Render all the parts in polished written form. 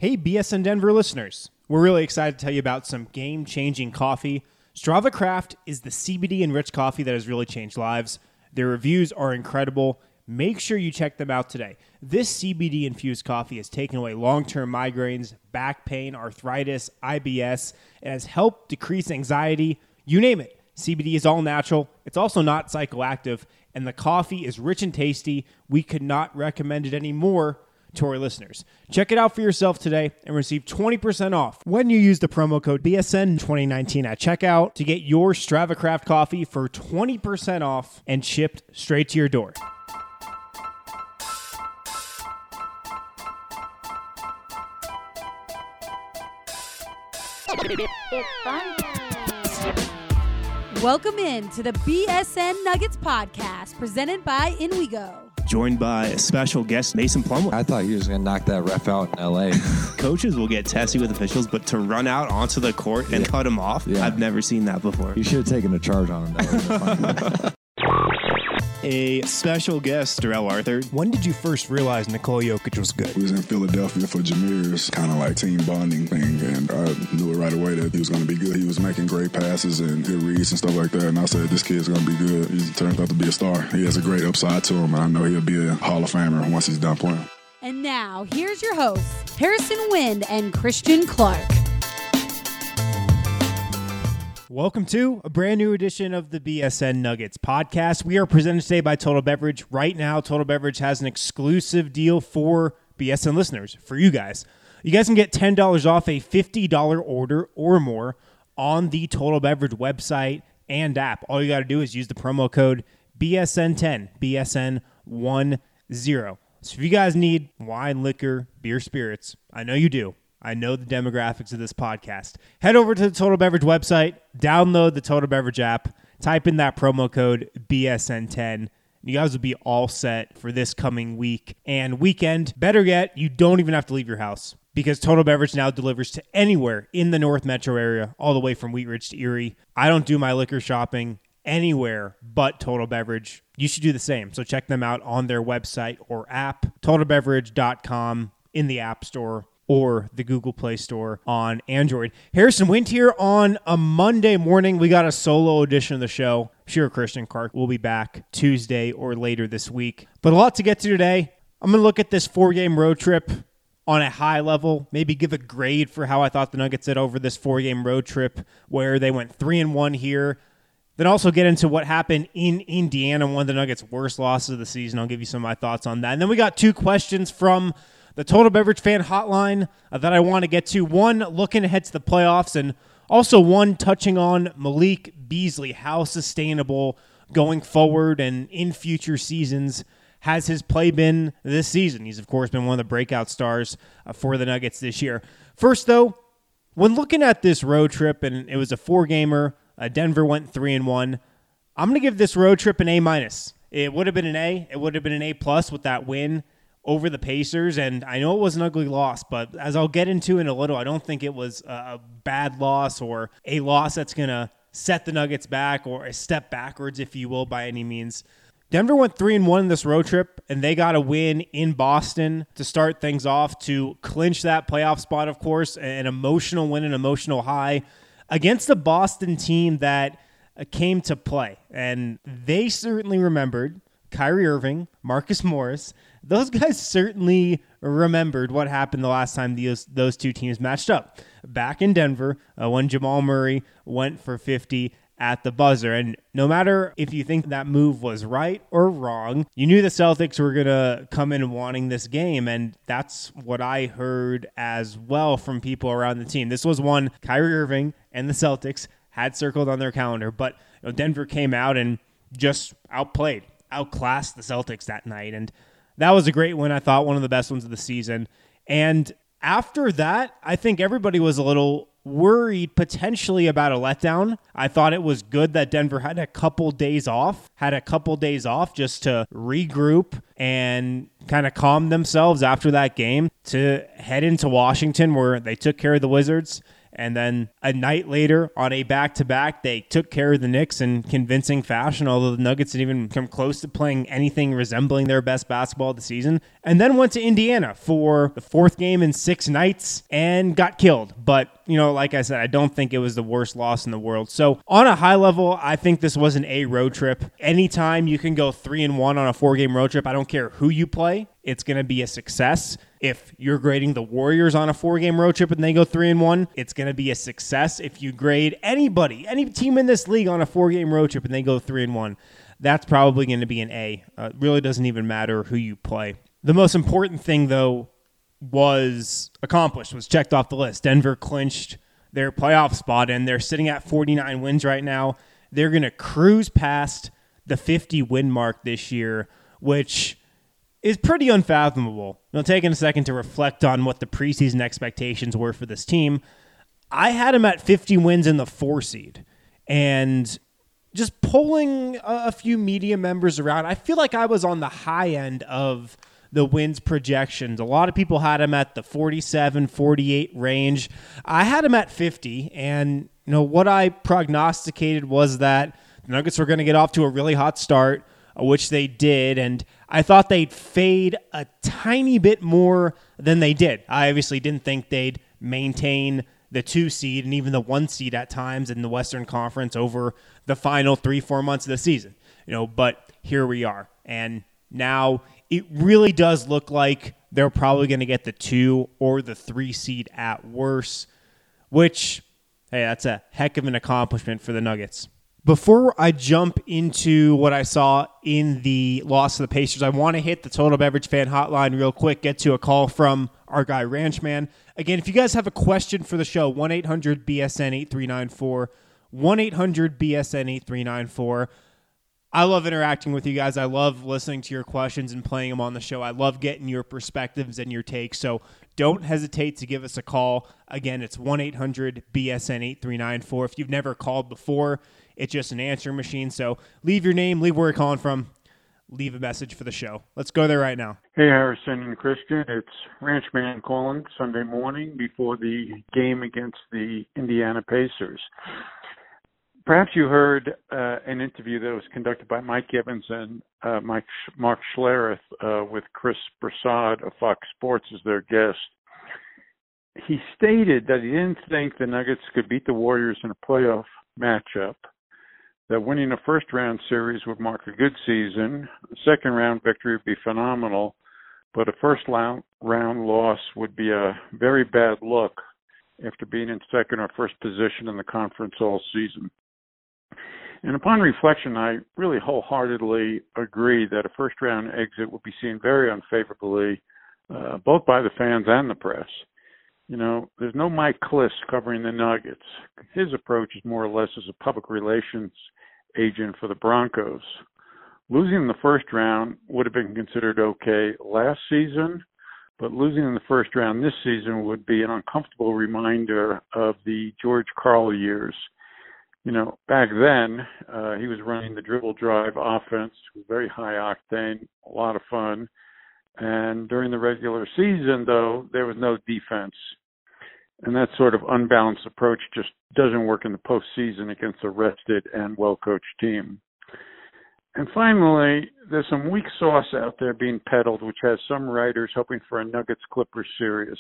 Hey, BSN Denver listeners. We're really excited to tell you about some game-changing coffee. Strava Craft is the CBD-enriched coffee that has really changed lives. Their reviews are incredible. Make sure you check them out today. This CBD-infused coffee has taken away long-term migraines, back pain, arthritis, IBS. It has helped decrease anxiety. You name it. CBD is all natural. It's also not psychoactive. And the coffee is rich and tasty. We could not recommend it anymore to our listeners. Check it out for yourself today and receive 20% off when you use the promo code BSN2019 at checkout to get your Strava Craft coffee for 20% off and shipped straight to your door. Welcome in to the BSN Nuggets podcast presented by Inwigo. Joined by a special guest, Mason Plumlee. I thought he was going to knock that ref out in L.A. Coaches will get testy with officials, but to run out onto the court and cut him off, I've never seen that before. You should have taken a charge on him. That would have been funny. A special guest, Darrell Arthur. When did you first realize Nikola Jokic was good? We was in Philadelphia for Jameer's kind of like team bonding thing, and I knew it right away that he was going to be good. He was making great passes and good reads and stuff like that, and I said, this kid's going to be good. He turns out to be a star. He has a great upside to him, and I know he'll be a Hall of Famer once he's done playing. And now, here's your hosts, Harrison Wind and Christian Clark. Welcome to a brand new edition of the BSN Nuggets podcast. We are presented today by Total Beverage. Right now, Total Beverage has an exclusive deal for BSN listeners, for you guys. You guys can get $10 off a $50 order or more on the Total Beverage website and app. All you got to do is use the promo code BSN10, BSN10. So if you guys need wine, liquor, beer, spirits, I know you do. I know the demographics of this podcast. Head over to the Total Beverage website, download the Total Beverage app, type in that promo code BSN10. You guys will be all set for this coming week and weekend. Better yet, you don't even have to leave your house because Total Beverage now delivers to anywhere in the North Metro area, all the way from Wheat Ridge to Erie. I don't do my liquor shopping anywhere but Total Beverage. You should do the same. So check them out on their website or app, totalbeverage.com, in the App Store or the Google Play Store on Android. Harrison Wind here on a Monday morning. We got a solo edition of the show. I'm sure Christian Clark will be back Tuesday or later this week. But a lot to get to today. I'm going to look at this 4-game road trip on a high level, maybe give a grade for how I thought the Nuggets did over this 4-game road trip where they went 3-1 here. Then also get into what happened in Indiana, one of the Nuggets' worst losses of the season. I'll give you some of my thoughts on that. And then we got 2 questions from the Total Beverage fan hotline that I want to get to. One, looking ahead to the playoffs, and also one touching on Malik Beasley, how sustainable going forward and in future seasons has his play been this season. He's, of course, been one of the breakout stars for the Nuggets this year. First, though, when looking at this road trip, and it was a 4-gamer, Denver went 3-1, I'm going to give this road trip an A-. It would have been an A. It would have been an A+ with that win over the Pacers, and I know it was an ugly loss, but as I'll get into in a little, I don't think it was a bad loss or a loss that's going to set the Nuggets back or a step backwards, if you will, by any means. Denver went 3-1 in this road trip, and they got a win in Boston to start things off to clinch that playoff spot, of course, an emotional win, an emotional high against the Boston team that came to play, and they certainly remembered Kyrie Irving, Marcus Morris. Those guys certainly remembered what happened the last time those two teams matched up back in Denver when Jamal Murray went for 50 at the buzzer. And no matter if you think that move was right or wrong, you knew the Celtics were going to come in wanting this game, and that's what I heard as well from people around the team. This was one Kyrie Irving and the Celtics had circled on their calendar, but Denver came out and just outclassed the Celtics that night, and that was a great win. I thought one of the best ones of the season. And after that, I think everybody was a little worried potentially about a letdown. I thought it was good that Denver had a couple days off just to regroup and kind of calm themselves after that game to head into Washington, where they took care of the Wizards. And then a night later on a back-to-back, they took care of the Knicks in convincing fashion, although the Nuggets didn't even come close to playing anything resembling their best basketball of the season. and then went to Indiana for the fourth game in 6 nights and got killed. But, like I said, I don't think it was the worst loss in the world. So on a high level, I think this was an A road trip. Anytime you can go 3-1 on a 4-game road trip, I don't care who you play, it's going to be a success. If you're grading the Warriors on a 4-game road trip and they go 3-1, it's going to be a success. If you grade anybody, any team in this league on a 4-game road trip and they go 3-1, that's probably going to be an A. It really doesn't even matter who you play. The most important thing, though, was checked off the list. Denver clinched their playoff spot, and they're sitting at 49 wins right now. They're going to cruise past the 50-win mark this year, which is pretty unfathomable. Taking a second to reflect on what the preseason expectations were for this team, I had them at 50 wins in the 4 seed. And just pulling a few media members around, I feel like I was on the high end of the wins projections. A lot of people had them at the 47, 48 range. I had them at 50, and what I prognosticated was that the Nuggets were going to get off to a really hot start, which they did, and I thought they'd fade a tiny bit more than they did. I obviously didn't think they'd maintain the 2 seed and even the 1 seed at times in the Western Conference over the final 3-4 months of the season. But here we are, and now it really does look like they're probably going to get the 2 or the 3 seed at worst, which, hey, that's a heck of an accomplishment for the Nuggets. Before I jump into what I saw in the loss of the Pacers, I want to hit the Total Beverage Fan Hotline real quick, get to a call from our guy Ranchman. Again, if you guys have a question for the show, 1-800-BSN-8394, 1-800-BSN-8394. I love interacting with you guys. I love listening to your questions and playing them on the show. I love getting your perspectives and your takes. So don't hesitate to give us a call. Again, it's 1-800-BSN-8394. If you've never called before, it's just an answering machine. So leave your name, leave where you're calling from, leave a message for the show. Let's go there right now. Hey, Harrison and Christian. It's Ranchman calling Sunday morning before the game against the Indiana Pacers. Perhaps you heard an interview that was conducted by Mike Evans and Mark Schlereth with Chris Broussard of Fox Sports as their guest. He stated that he didn't think the Nuggets could beat the Warriors in a playoff matchup, that winning a first-round series would mark a good season, a second-round victory would be phenomenal, but a first-round loss would be a very bad look after being in second or first position in the conference all season. And upon reflection, I really wholeheartedly agree that a first-round exit would be seen very unfavorably, both by the fans and the press. There's no Mike Klis covering the Nuggets. His approach is more or less as a public relations agent for the Broncos. Losing in the first round would have been considered okay last season, but losing in the first round this season would be an uncomfortable reminder of the George Karl years. Back then, he was running the dribble drive offense, very high octane, a lot of fun. And during the regular season, though, there was no defense. And that sort of unbalanced approach just doesn't work in the postseason against a rested and well-coached team. And finally, there's some weak sauce out there being peddled, which has some writers hoping for a Nuggets-Clippers series.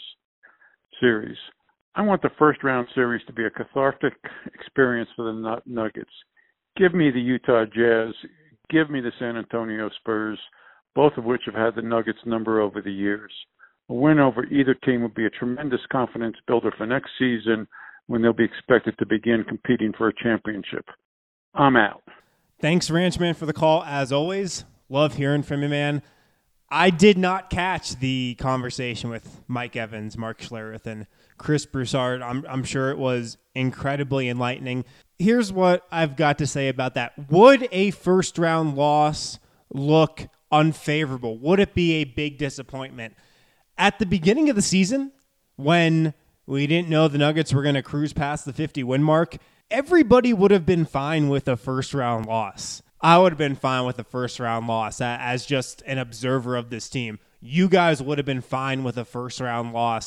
I want the first-round series to be a cathartic experience for the Nuggets. Give me the Utah Jazz. Give me the San Antonio Spurs, both of which have had the Nuggets number over the years. A win over either team would be a tremendous confidence builder for next season when they'll be expected to begin competing for a championship. I'm out. Thanks, Ranchman, for the call. As always, love hearing from you, man. I did not catch the conversation with Mike Evans, Mark Schlereth, and Chris Broussard. I'm sure it was incredibly enlightening. Here's what I've got to say about that. Would a first-round loss look unfavorable? Would it be a big disappointment? At the beginning of the season, when we didn't know the Nuggets were going to cruise past the 50-win mark, everybody would have been fine with a first-round loss. I would have been fine with a first-round loss as just an observer of this team. You guys would have been fine with a first-round loss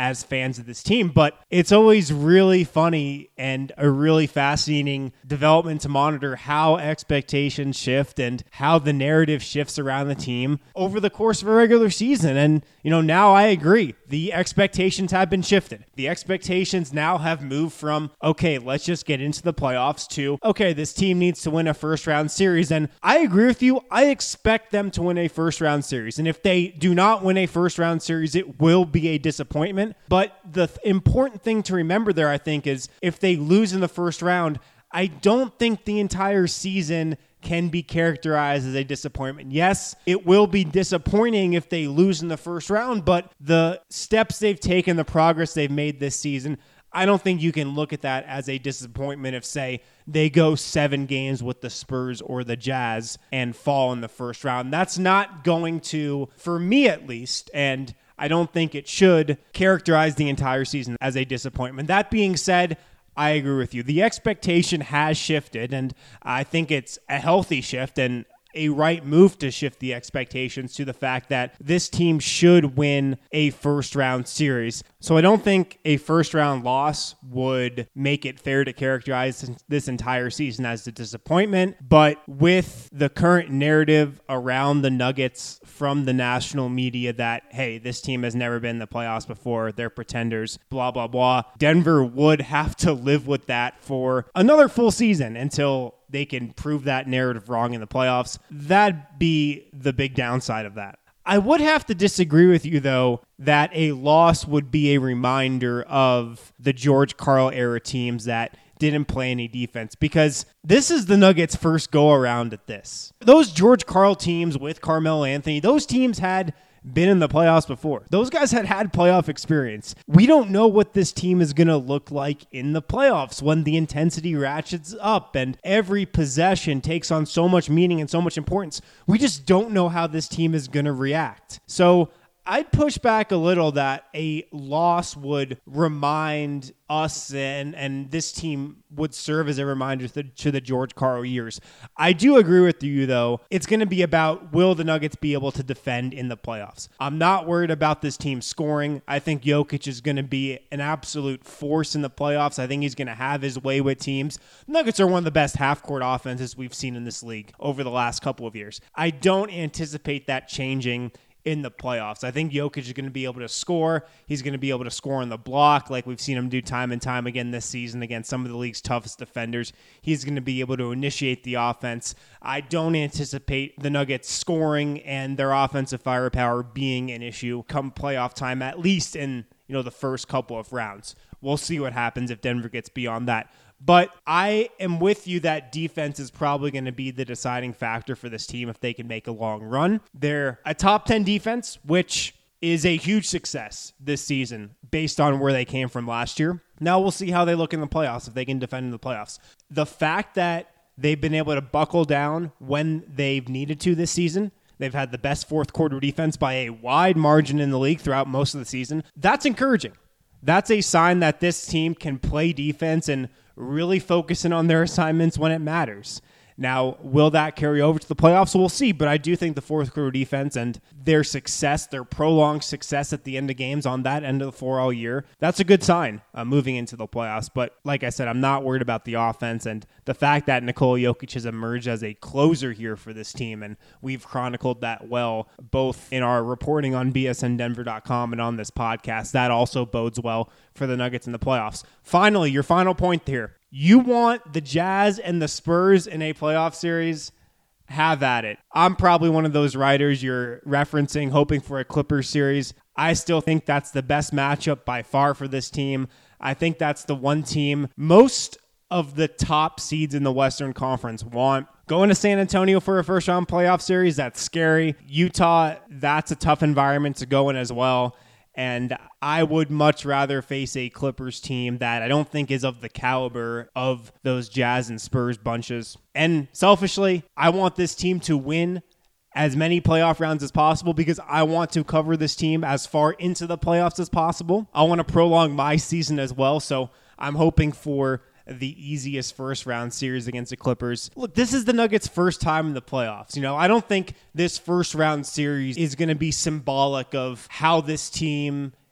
as fans of this team. But it's always really funny and a really fascinating development to monitor how expectations shift and how the narrative shifts around the team over the course of a regular season. And, now I agree. The expectations have been shifted. The expectations now have moved from, okay, let's just get into the playoffs to, okay, this team needs to win a first round series. And I agree with you. I expect them to win a first round series. And if they do not win a first round series, it will be a disappointment. But the important thing to remember there, I think, is if they lose in the first round, I don't think the entire season can be characterized as a disappointment. Yes, it will be disappointing if they lose in the first round, but the steps they've taken, the progress they've made this season, I don't think you can look at that as a disappointment if, say, they go 7 games with the Spurs or the Jazz and fall in the first round. That's not going to, for me at least, and I don't think it should, characterize the entire season as a disappointment. That being said, I agree with you. The expectation has shifted, and I think it's a healthy shift and a right move to shift the expectations to the fact that this team should win a first-round series. So I don't think a first-round loss would make it fair to characterize this entire season as a disappointment. But with the current narrative around the Nuggets from the national media that, hey, this team has never been in the playoffs before, they're pretenders, blah, blah, blah, Denver would have to live with that for another full season until they can prove that narrative wrong in the playoffs. That'd be the big downside of that. I would have to disagree with you, though, that a loss would be a reminder of the George Karl era teams that didn't play any defense, because this is the Nuggets' first go-around at this. Those George Karl teams with Carmelo Anthony, those teams had been in the playoffs before. Those guys had playoff experience. We don't know what this team is going to look like in the playoffs when the intensity ratchets up and every possession takes on so much meaning and so much importance. We just don't know how this team is going to react. So I'd push back a little that a loss would remind us and this team would serve as a reminder to the George Karl years. I do agree with you, though. It's going to be about, will the Nuggets be able to defend in the playoffs? I'm not worried about this team scoring. I think Jokic is going to be an absolute force in the playoffs. I think he's going to have his way with teams. Nuggets are one of the best half-court offenses we've seen in this league over the last couple of years. I don't anticipate that changing in the playoffs. I think Jokic is going to be able to score. He's going to be able to score on the block like we've seen him do time and time again this season against some of the league's toughest defenders. He's going to be able to initiate the offense. I don't anticipate the Nuggets scoring and their offensive firepower being an issue come playoff time, at least in the first couple of rounds. We'll see what happens if Denver gets beyond that. But I am with you that defense is probably going to be the deciding factor for this team if they can make a long run. They're a top 10 defense, which is a huge success this season based on where they came from last year. Now we'll see how they look in the playoffs, if they can defend in the playoffs. The fact that they've been able to buckle down when they've needed to this season, they've had the best fourth quarter defense by a wide margin in the league throughout most of the season. That's encouraging. That's a sign that this team can play defense and really focusing on their assignments when it matters. Now, will that carry over to the playoffs? We'll see, but I do think the fourth quarter defense and their success, their prolonged success at the end of games on that end of the floor all year, that's a good sign moving into the playoffs. But like I said, I'm not worried about the offense and the fact that Nikola Jokic has emerged as a closer here for this team, and we've chronicled that well, both in our reporting on bsndenver.com and on this podcast. That also bodes well for the Nuggets in the playoffs. Finally, your final point here. You want the Jazz and the Spurs in a playoff series? Have at it. I'm probably one of those writers you're referencing, hoping for a Clippers series. I still think that's the best matchup by far for this team. I think that's the one team most of the top seeds in the Western Conference want. Going to San Antonio for a first-round playoff series, that's scary. Utah, that's a tough environment to go in as well. And I would much rather face a Clippers team that I don't think is of the caliber of those Jazz and Spurs bunches. And selfishly, I want this team to win as many playoff rounds as possible because I want to cover this team as far into the playoffs as possible. I want to prolong my season as well. So I'm hoping for the easiest first round series against the Clippers. Look, this is the Nuggets' first time in the playoffs. I don't think this first round series is going to be symbolic of how this team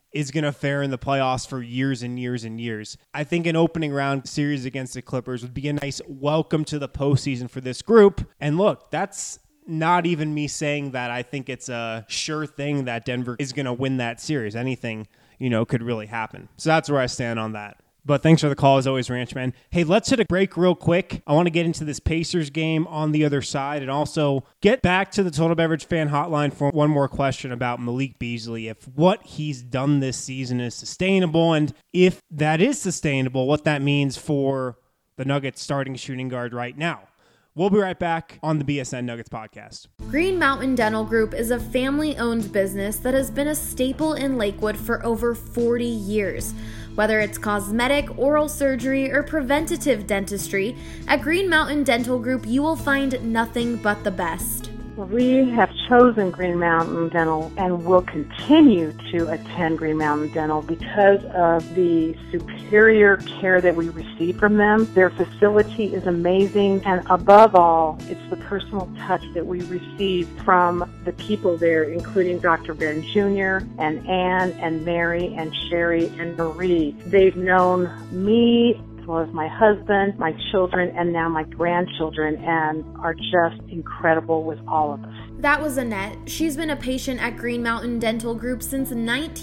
is going to fare in the playoffs for years and years and years. I think an opening round series against the Clippers would be a nice welcome to the postseason for this group. And look, that's not even me saying that I think it's a sure thing that Denver is going to win that series. Anything, could really happen. So that's where I stand on that. But thanks for the call, as always, Ranchman. Hey, let's hit a break real quick. I want to get into this Pacers game on the other side and also get back to the Total Beverage fan hotline for one more question about Malik Beasley. If what he's done this season is sustainable, and if that is sustainable, what that means for the Nuggets starting shooting guard right now. We'll be right back on the BSN Nuggets podcast. Green Mountain Dental Group is a family-owned business that has been a staple in Lakewood for over 40 years. Whether it's cosmetic, oral surgery, or preventative dentistry, at Green Mountain Dental Group you will find nothing but the best. We have chosen Green Mountain Dental and will continue to attend Green Mountain Dental because of the superior care that we receive from them. Their facility is amazing, and above all, it's the personal touch that we receive from the people there, including Dr. Ben Jr. and Ann and Mary and Sherry and Marie. They've known me as well as my husband, my children, and now my grandchildren, and are just incredible with all of us. That was Annette. She's been a patient at Green Mountain Dental Group since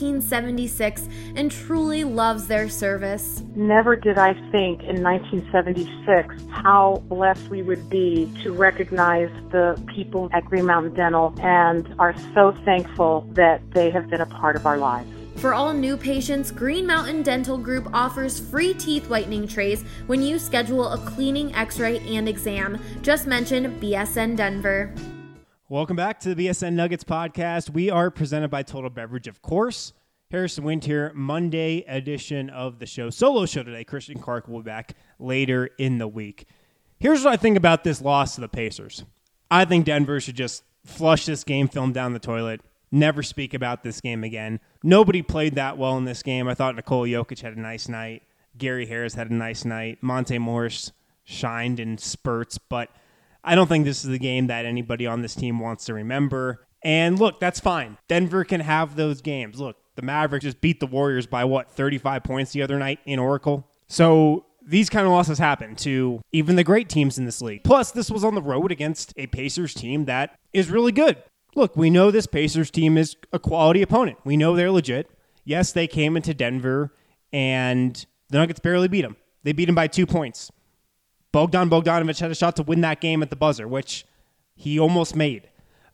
1976 and truly loves their service. Never did I think in 1976 how blessed we would be to recognize the people at Green Mountain Dental, and are so thankful that they have been a part of our lives. For all new patients, Green Mountain Dental Group offers free teeth whitening trays when you schedule a cleaning, x-ray, and exam. Just mention BSN Denver. Welcome back to the BSN Nuggets podcast. We are presented by Total Beverage, of course. Harrison Wind here, Monday edition of the show. Solo show today. Christian Clark will be back later in the week. Here's what I think about this loss to the Pacers. I think Denver should just flush this game film down the toilet. Never speak about this game again. Nobody played that well in this game. I thought Nikola Jokic had a nice night. Gary Harris had a nice night. Monte Morris shined in spurts, but I don't think this is the game that anybody on this team wants to remember. And look, that's fine. Denver can have those games. Look, the Mavericks just beat the Warriors by 35 points the other night in Oracle. So these kind of losses happen to even the great teams in this league. Plus, this was on the road against a Pacers team that is really good. Look, we know this Pacers team is a quality opponent. We know they're legit. Yes, they came into Denver, and the Nuggets barely beat them. They beat them by 2 points. Bogdan Bogdanovic had a shot to win that game at the buzzer, which he almost made.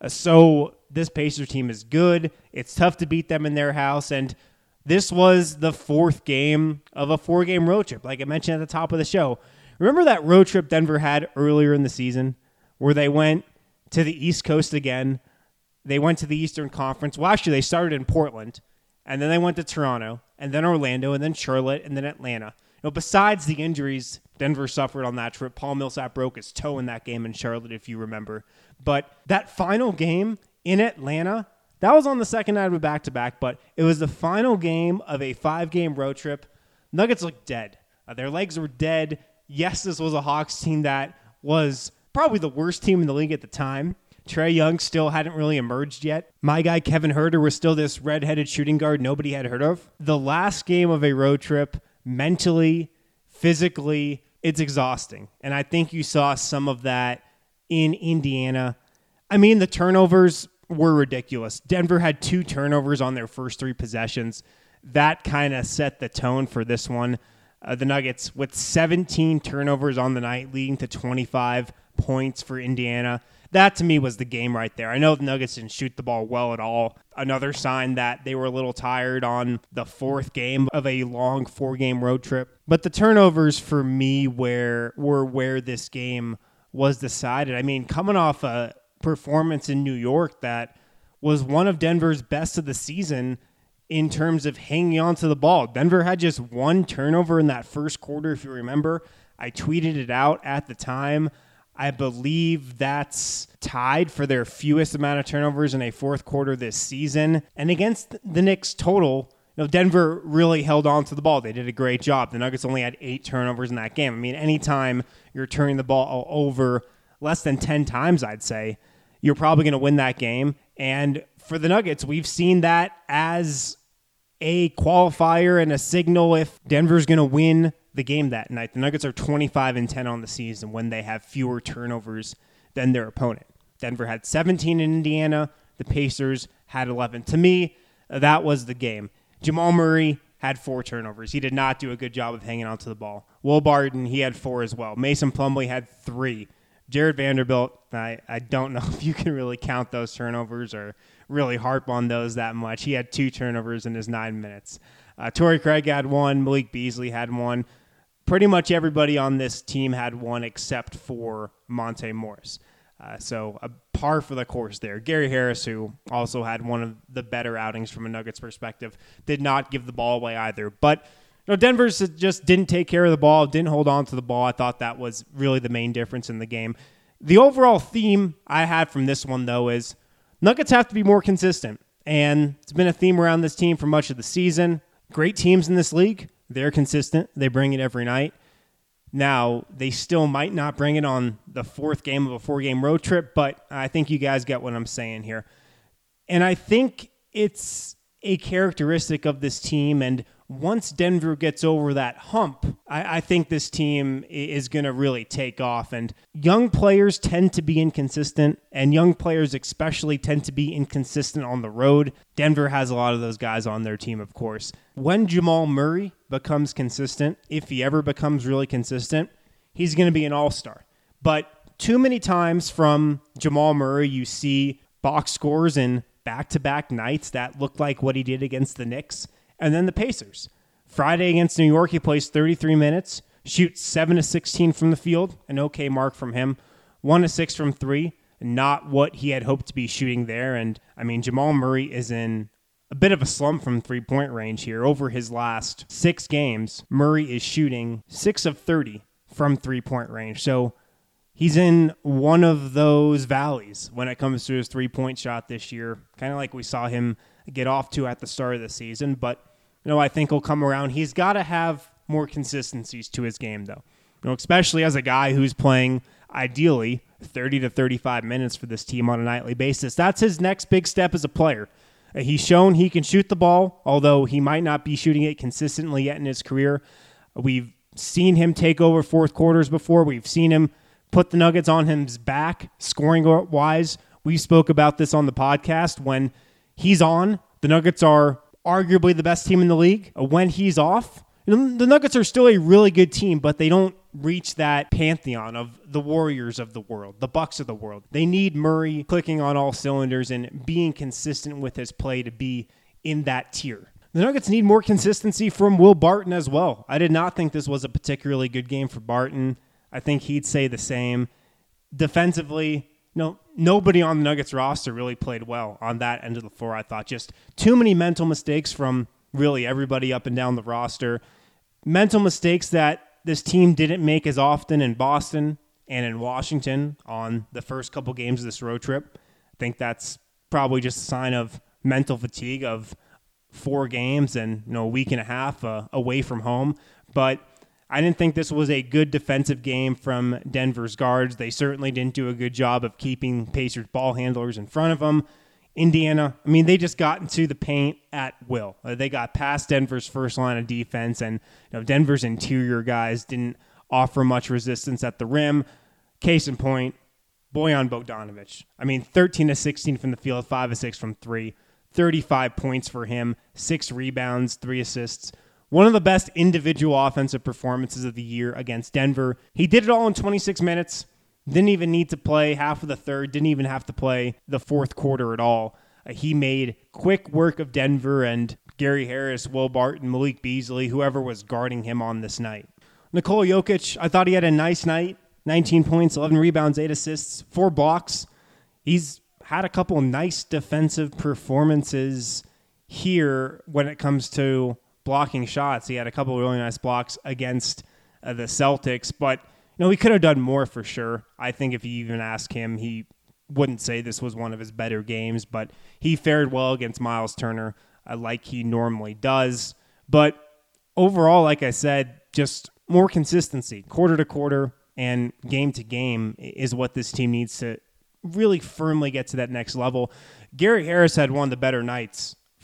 So this Pacers team is good. It's tough to beat them in their house, and this was the fourth game of a 4-game road trip, like I mentioned at the top of the show. Remember that road trip Denver had earlier in the season where they went to the East Coast again? They went to the Eastern Conference. Well, actually, they started in Portland, and then they went to Toronto, and then Orlando, and then Charlotte, and then Atlanta. Besides the injuries Denver suffered on that trip, Paul Millsap broke his toe in that game in Charlotte, if you remember. But that final game in Atlanta, that was on the second night of a back-to-back, but it was the final game of a 5-game road trip. Nuggets looked dead. Their legs were dead. Yes, this was a Hawks team that was probably the worst team in the league at the time. Trae Young still hadn't really emerged yet. My guy Kevin Huerter was still this red-headed shooting guard nobody had heard of. The last game of a road trip, mentally, physically, it's exhausting. And I think you saw some of that in Indiana. I mean, the turnovers were ridiculous. Denver had 2 turnovers on their first 3 possessions. That kind of set the tone for this one. The Nuggets with 17 turnovers on the night, leading to 25 points for Indiana. That, to me, was the game right there. I know the Nuggets didn't shoot the ball well at all. Another sign that they were a little tired on the 4th game of a long 4-game road trip. But the turnovers, for me, were where this game was decided. I mean, coming off a performance in New York that was one of Denver's best of the season in terms of hanging on to the ball. Denver had just 1 turnover in that first quarter, if you remember. I tweeted it out at the time. I believe that's tied for their fewest amount of turnovers in a 4th quarter this season. And against the Knicks total, Denver really held on to the ball. They did a great job. The Nuggets only had 8 turnovers in that game. I mean, anytime you're turning the ball over less than 10 times, I'd say, you're probably going to win that game. And for the Nuggets, we've seen that as a qualifier and a signal if Denver's going to win the game that night. The Nuggets are 25-10 on the season when they have fewer turnovers than their opponent. Denver had 17 in Indiana. The Pacers had 11. To me, that was the game. Jamal Murray had 4 turnovers. He did not do a good job of hanging onto the ball. Will Barton, he had 4 as well. Mason Plumlee had 3. Jared Vanderbilt, I don't know if you can really count those turnovers or really harp on those that much. He had 2 turnovers in his 9 minutes. Torrey Craig had 1. Malik Beasley had 1. Pretty much everybody on this team had 1 except for Monte Morris. So a par for the course there. Gary Harris, who also had one of the better outings from a Nuggets perspective, did not give the ball away either. But Denver just didn't take care of the ball, didn't hold on to the ball. I thought that was really the main difference in the game. The overall theme I had from this one, though, is Nuggets have to be more consistent. And it's been a theme around this team for much of the season. Great teams in this league, they're consistent. They bring it every night. Now, they still might not bring it on the 4th game of a 4-game road trip, but I think you guys get what I'm saying here. And I think it's a characteristic of this team, and once Denver gets over that hump, I think this team is going to really take off. And young players tend to be inconsistent, and young players especially tend to be inconsistent on the road. Denver has a lot of those guys on their team, of course. When Jamal Murray becomes consistent, if he ever becomes really consistent, he's going to be an all-star. But too many times from Jamal Murray, you see box scores in back-to-back nights that look like what he did against the Knicks. And then the Pacers. Friday against New York, he plays 33 minutes, shoots 7 of 16 from the field, an okay mark from him, 1 of 6 from 3, not what he had hoped to be shooting there. And, I mean, Jamal Murray is in a bit of a slump from three-point range here. Over his last 6 games, Murray is shooting 6 of 30 from three-point range. So he's in one of those valleys when it comes to his three-point shot this year, kind of like we saw him get off to at the start of the season. But, I think he'll come around. He's got to have more consistencies to his game, though. Especially as a guy who's playing, ideally, 30 to 35 minutes for this team on a nightly basis. That's his next big step as a player. He's shown he can shoot the ball, although he might not be shooting it consistently yet in his career. We've seen him take over fourth quarters before. We've seen him put the Nuggets on his back, scoring-wise. We spoke about this on the podcast. When he's on, the Nuggets are arguably the best team in the league. When he's off, the Nuggets are still a really good team, but they don't reach that pantheon of the Warriors of the world, the Bucks of the world. They need Murray clicking on all cylinders and being consistent with his play to be in that tier. The Nuggets need more consistency from Will Barton as well. I did not think this was a particularly good game for Barton. I think he'd say the same. Defensively, nobody on the Nuggets roster really played well on that end of the floor, I thought. Just too many mental mistakes from really everybody up and down the roster. Mental mistakes that this team didn't make as often in Boston and in Washington on the first couple games of this road trip. I think that's probably just a sign of mental fatigue of 4 games and a week and a half away from home. But I didn't think this was a good defensive game from Denver's guards. They certainly didn't do a good job of keeping Pacers ball handlers in front of them. Indiana, they just got into the paint at will. They got past Denver's first line of defense, and Denver's interior guys didn't offer much resistance at the rim. Case in point, Bojan Bogdanovic. 13 of 16 from the field, 5 of 6 from 3, 35 points for him, 6 rebounds, 3 assists. One of the best individual offensive performances of the year against Denver. He did it all in 26 minutes. Didn't even need to play half of the third. Didn't even have to play the fourth quarter at all. He made quick work of Denver and Gary Harris, Will Barton, Malik Beasley, whoever was guarding him on this night. Nikola Jokic, I thought he had a nice night. 19 points, 11 rebounds, 8 assists, 4 blocks. He's had a couple nice defensive performances here when it comes to blocking shots. He had a couple of really nice blocks against the Celtics, but he could have done more for sure. I think if you even ask him, he wouldn't say this was one of his better games, but he fared well against Miles Turner like he normally does. But overall, like I said, just more consistency, quarter to quarter and game to game is what this team needs to really firmly get to that next level. Gary Harris had one of the better nights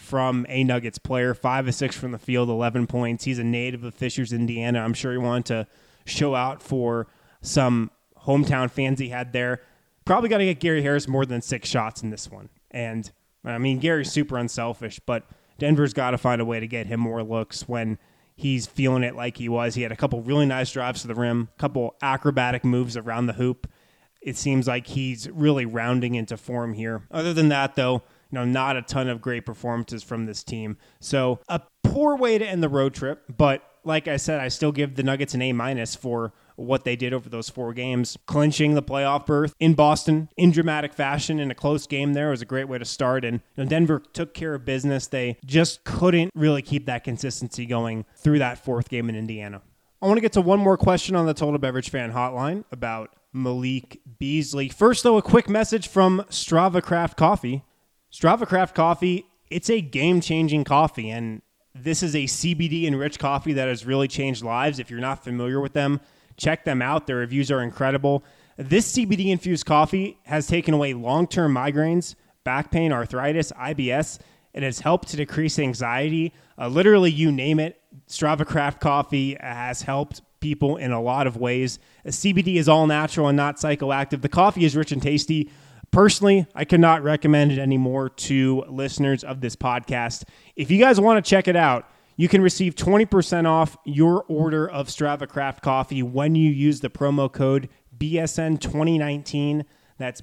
from a Nuggets player. 5 of 6 from the field, 11 points. He's a native of Fishers, Indiana. I'm sure he wanted to show out for some hometown fans he had there. Probably got to get Gary Harris more than 6 shots in this one. And, I mean, Gary's super unselfish, but Denver's got to find a way to get him more looks when he's feeling it like he was. He had a couple really nice drives to the rim, a couple acrobatic moves around the hoop. It seems like he's really rounding into form here. Other than that, though, not a ton of great performances from this team. So a poor way to end the road trip, but like I said, I still give the Nuggets an A- for what they did over those 4 games. Clinching the playoff berth in Boston in dramatic fashion in a close game there was a great way to start. And Denver took care of business. They just couldn't really keep that consistency going through that 4th game in Indiana. I want to get to one more question on the Total Beverage Fan Hotline about Malik Beasley. First, though, a quick message from Strava Craft Coffee. Strava Craft Coffee, it's a game-changing coffee, and this is a CBD-enriched coffee that has really changed lives. If you're not familiar with them, check them out. Their reviews are incredible. This CBD-infused coffee has taken away long-term migraines, back pain, arthritis, IBS. It has helped to decrease anxiety. Literally, you name it. Strava Craft Coffee has helped people in a lot of ways. CBD is all natural and not psychoactive. The coffee is rich and tasty. Personally, I could not recommend it anymore to listeners of this podcast. If you guys want to check it out, you can receive 20% off your order of Strava Craft Coffee when you use the promo code BSN2019. That's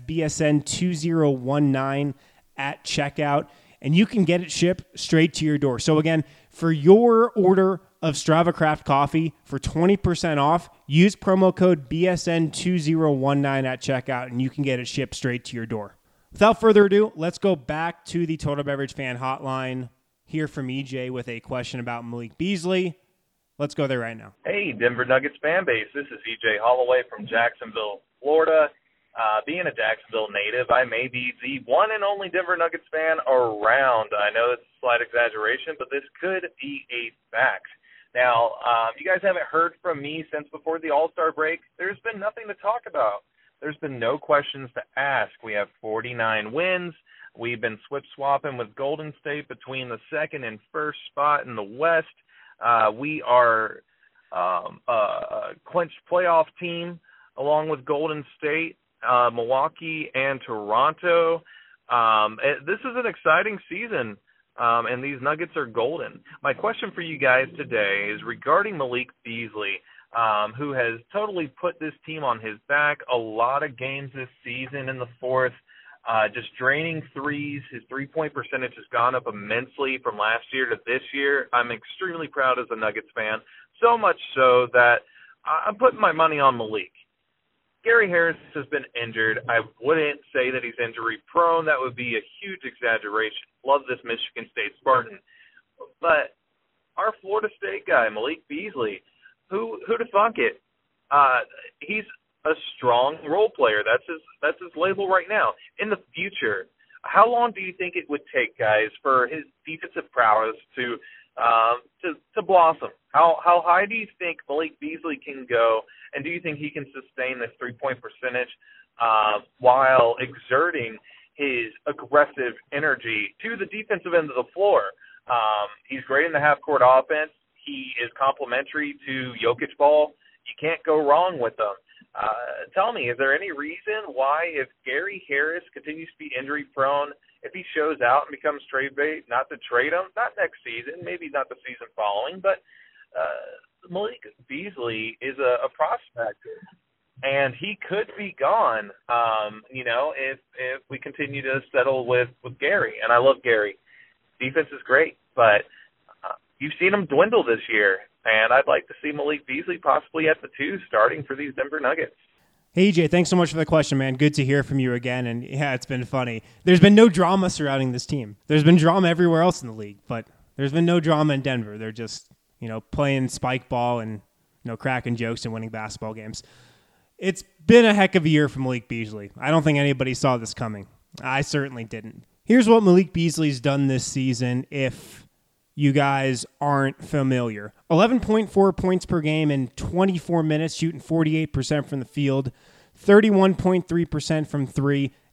BSN2019 at checkout. And you can get it shipped straight to your door. So again, for your order of Strava Craft Coffee for 20% off, use promo code BSN2019 at checkout, and you can get it shipped straight to your door. Without further ado, let's go back to the Total Beverage Fan Hotline. Hear from EJ with a question about Malik Beasley. Let's go there right now. Hey, Denver Nuggets fan base. This is EJ Holloway from Jacksonville, Florida. Being a Jacksonville native, I may be the one and only Denver Nuggets fan around. I know it's a slight exaggeration, but this could be a fact. Now, you guys haven't heard from me since before the All-Star break. There's been nothing to talk about. There's been no questions to ask. We have 49 wins. We've been swip-swapping with Golden State between the 2nd and 1st spot in the West. We are a clinched playoff team along with Golden State, Milwaukee, and Toronto. This is an exciting season. And these Nuggets are golden. My question for you guys today is regarding Malik Beasley, who has totally put this team on his back. A lot of games this season in the 4th, just draining threes. His three-point percentage has gone up immensely from last year to this year. I'm extremely proud as a Nuggets fan, so much so that I'm putting my money on Malik. Gary Harris has been injured. I wouldn't say that he's injury prone. That would be a huge exaggeration. Love this Michigan State Spartan. But our Florida State guy, Malik Beasley, who'd have thunk it? He's a strong role player. That's his label right now. In the future, how long do you think it would take, guys, for his defensive prowess to blossom? How high do you think Malik Beasley can go, and do you think he can sustain this three-point percentage while exerting his aggressive energy to the defensive end of the floor? He's great in the half-court offense. He is complementary to Jokic ball. You can't go wrong with him. Tell me, is there any reason why, if Gary Harris continues to be injury-prone, if he shows out and becomes trade bait, not to trade him, not next season, maybe not the season following, but Malik Beasley is a prospect, and he could be gone, if we continue to settle with Gary. And I love Gary. Defense is great, but you've seen him dwindle this year, and I'd like to see Malik Beasley possibly at the 2 starting for these Denver Nuggets. Hey, EJ, thanks so much for the question, man. Good to hear from you again. And yeah, it's been funny. There's been no drama surrounding this team. There's been drama everywhere else in the league, but there's been no drama in Denver. They're just, playing spike ball and, cracking jokes and winning basketball games. It's been a heck of a year for Malik Beasley. I don't think anybody saw this coming. I certainly didn't. Here's what Malik Beasley's done this season if you guys aren't familiar. 11.4 points per game in 24 minutes, shooting 48% from the field, 31.3% from 3,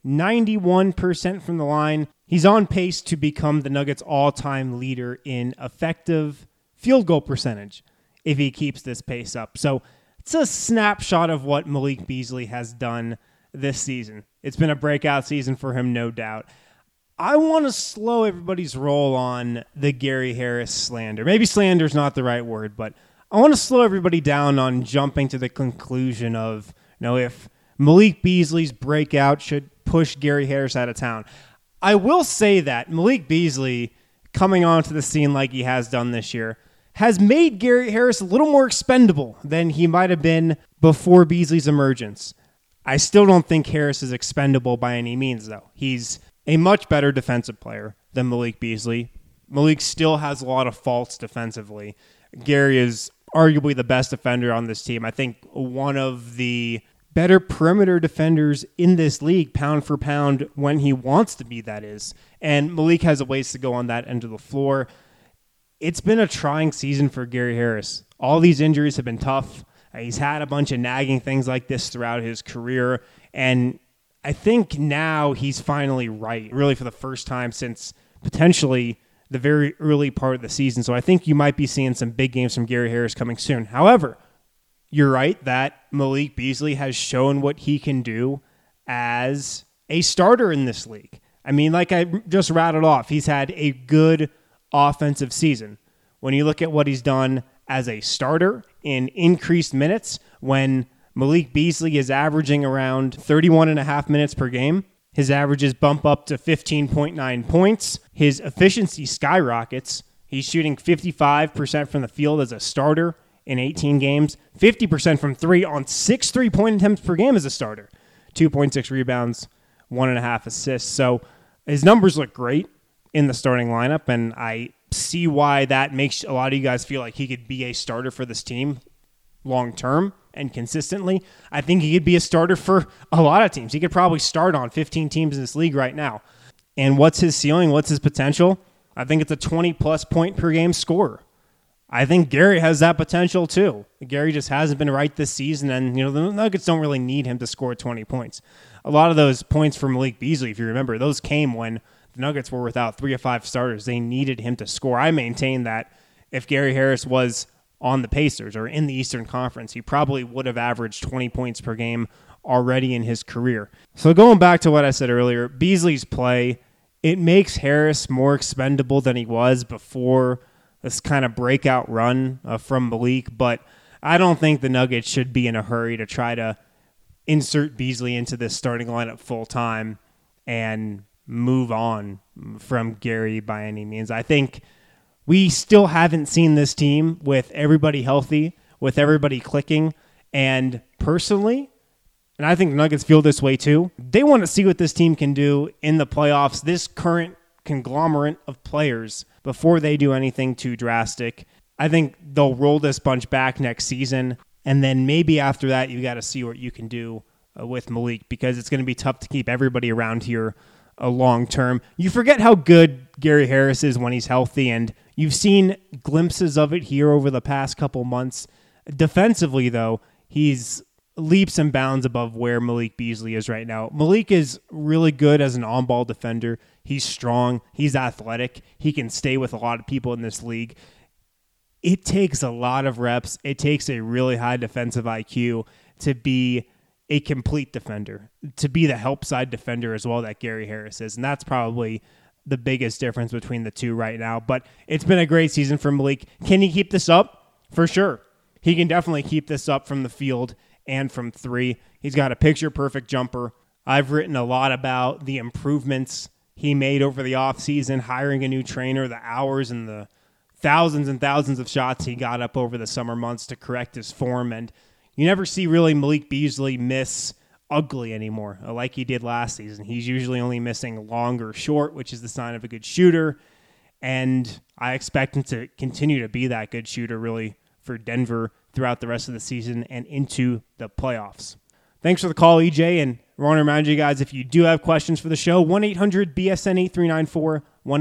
91% from the line. He's on pace to become the Nuggets' all-time leader in effective field goal percentage if he keeps this pace up. So it's a snapshot of what Malik Beasley has done this season. It's been a breakout season for him, no doubt. I want to slow everybody's roll on the Gary Harris slander. Maybe slander is not the right word, but I want to slow everybody down on jumping to the conclusion of, if Malik Beasley's breakout should push Gary Harris out of town. I will say that Malik Beasley, coming onto the scene like he has done this year, has made Gary Harris a little more expendable than he might have been before Beasley's emergence. I still don't think Harris is expendable by any means, though. He's a much better defensive player than Malik Beasley. Malik still has a lot of faults defensively. Gary is arguably the best defender on this team. I think one of the better perimeter defenders in this league, pound for pound, when he wants to be, that is. And Malik has a ways to go on that end of the floor. It's been a trying season for Gary Harris. All these injuries have been tough. He's had a bunch of nagging things like this throughout his career. And I think now he's finally right, really for the first time since potentially the very early part of the season. So I think you might be seeing some big games from Gary Harris coming soon. However, you're right that Malik Beasley has shown what he can do as a starter in this league. I mean, like I just rattled off, he's had a good offensive season. When you look at what he's done as a starter in increased minutes, when Malik Beasley is averaging around 31.5 minutes per game, his averages bump up to 15.9 points. His efficiency skyrockets. He's shooting 55% from the field as a starter in 18 games, 50% from three on 6 3-point attempts per game as a starter, 2.6 rebounds, 1.5 assists. So his numbers look great in the starting lineup, and I see why that makes a lot of you guys feel like he could be a starter for this team long term and consistently. I think he could be a starter for a lot of teams. He could probably start on 15 teams in this league right now. And what's his ceiling? What's his potential? I think it's a 20-plus point per game scorer. I think Gary has that potential too. Gary just hasn't been right this season, and the Nuggets don't really need him to score 20 points. A lot of those points for Malik Beasley, if you remember, those came when the Nuggets were without 3 or 5 starters. They needed him to score. I maintain that if Gary Harris was on the Pacers or in the Eastern Conference, he probably would have averaged 20 points per game already in his career. So going back to what I said earlier, Beasley's play, it makes Harris more expendable than he was before this kind of breakout run from Malik, but I don't think the Nuggets should be in a hurry to try to insert Beasley into this starting lineup full time and move on from Gary by any means. I think we still haven't seen this team with everybody healthy, with everybody clicking, and personally, and I think the Nuggets feel this way too, they want to see what this team can do in the playoffs, this current conglomerate of players, before they do anything too drastic. I think they'll roll this bunch back next season, and then maybe after that, you got to see what you can do with Malik, because it's going to be tough to keep everybody around here long term. You forget how good Gary Harris is when he's healthy, and you've seen glimpses of it here over the past couple months. Defensively, though, he's leaps and bounds above where Malik Beasley is right now. Malik is really good as an on-ball defender. He's strong. He's athletic. He can stay with a lot of people in this league. It takes a lot of reps. It takes a really high defensive IQ to be a complete defender, to be the help side defender as well that Gary Harris is. And that's probably the biggest difference between the two right now. But it's been a great season for Malik. Can he keep this up? For sure. He can definitely keep this up from the field and from three. He's got a picture-perfect jumper. I've written a lot about the improvements he made over the offseason, hiring a new trainer, the hours and the thousands and thousands of shots he got up over the summer months to correct his form. And you never see really Malik Beasley miss ugly anymore like he did last season. He's usually only missing long or short, which is the sign of a good shooter. And I expect him to continue to be that good shooter really for Denver throughout the rest of the season and into the playoffs. Thanks for the call, EJ, and I want to remind you guys, if you do have questions for the show, 1-800-BSN-8394,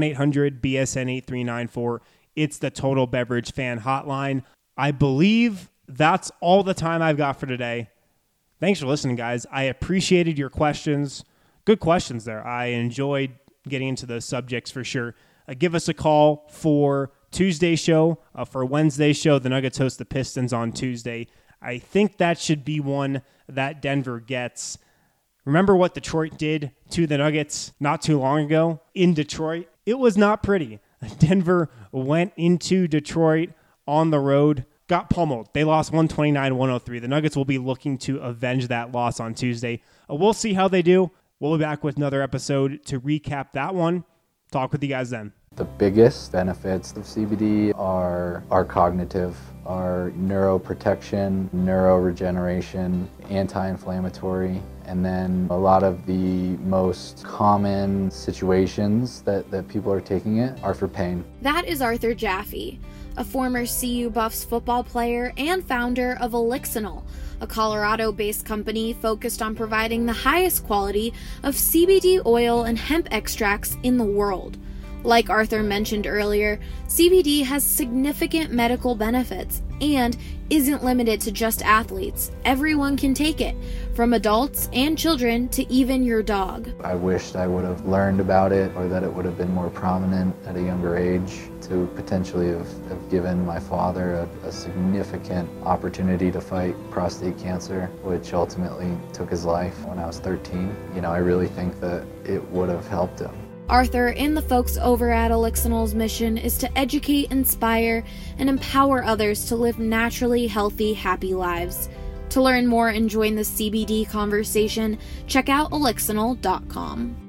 1-800-BSN-8394. It's the Total Beverage Fan Hotline. I believe that's all the time I've got for today. Thanks for listening, guys. I appreciated your questions Good questions there. I enjoyed getting into those subjects for sure. Give us a call for Tuesday show. For Wednesday show, the Nuggets host the Pistons on Tuesday. I think that should be one that Denver gets. Remember what Detroit did to the Nuggets not too long ago in Detroit? It was not pretty. Denver went into Detroit on the road, got pummeled. They lost 129-103. The Nuggets will be looking to avenge that loss on Tuesday. We'll see how they do. We'll be back with another episode to recap that one. Talk with you guys then. The biggest benefits of CBD are cognitive, are neuroprotection, neuroregeneration, anti-inflammatory, and then a lot of the most common situations that people are taking it are for pain. That is Arthur Jaffe, a former CU Buffs football player and founder of Elixinol, a Colorado-based company focused on providing the highest quality of CBD oil and hemp extracts in the world. Like Arthur mentioned earlier, CBD has significant medical benefits and isn't limited to just athletes. Everyone can take it, from adults and children to even your dog. I wished I would have learned about it, or that it would have been more prominent at a younger age, to potentially have given my father a significant opportunity to fight prostate cancer, which ultimately took his life when I was 13. I really think that it would have helped him. Arthur and the folks over at Elixinol's mission is to educate, inspire, and empower others to live naturally healthy, happy lives. To learn more and join the CBD conversation, check out elixinol.com.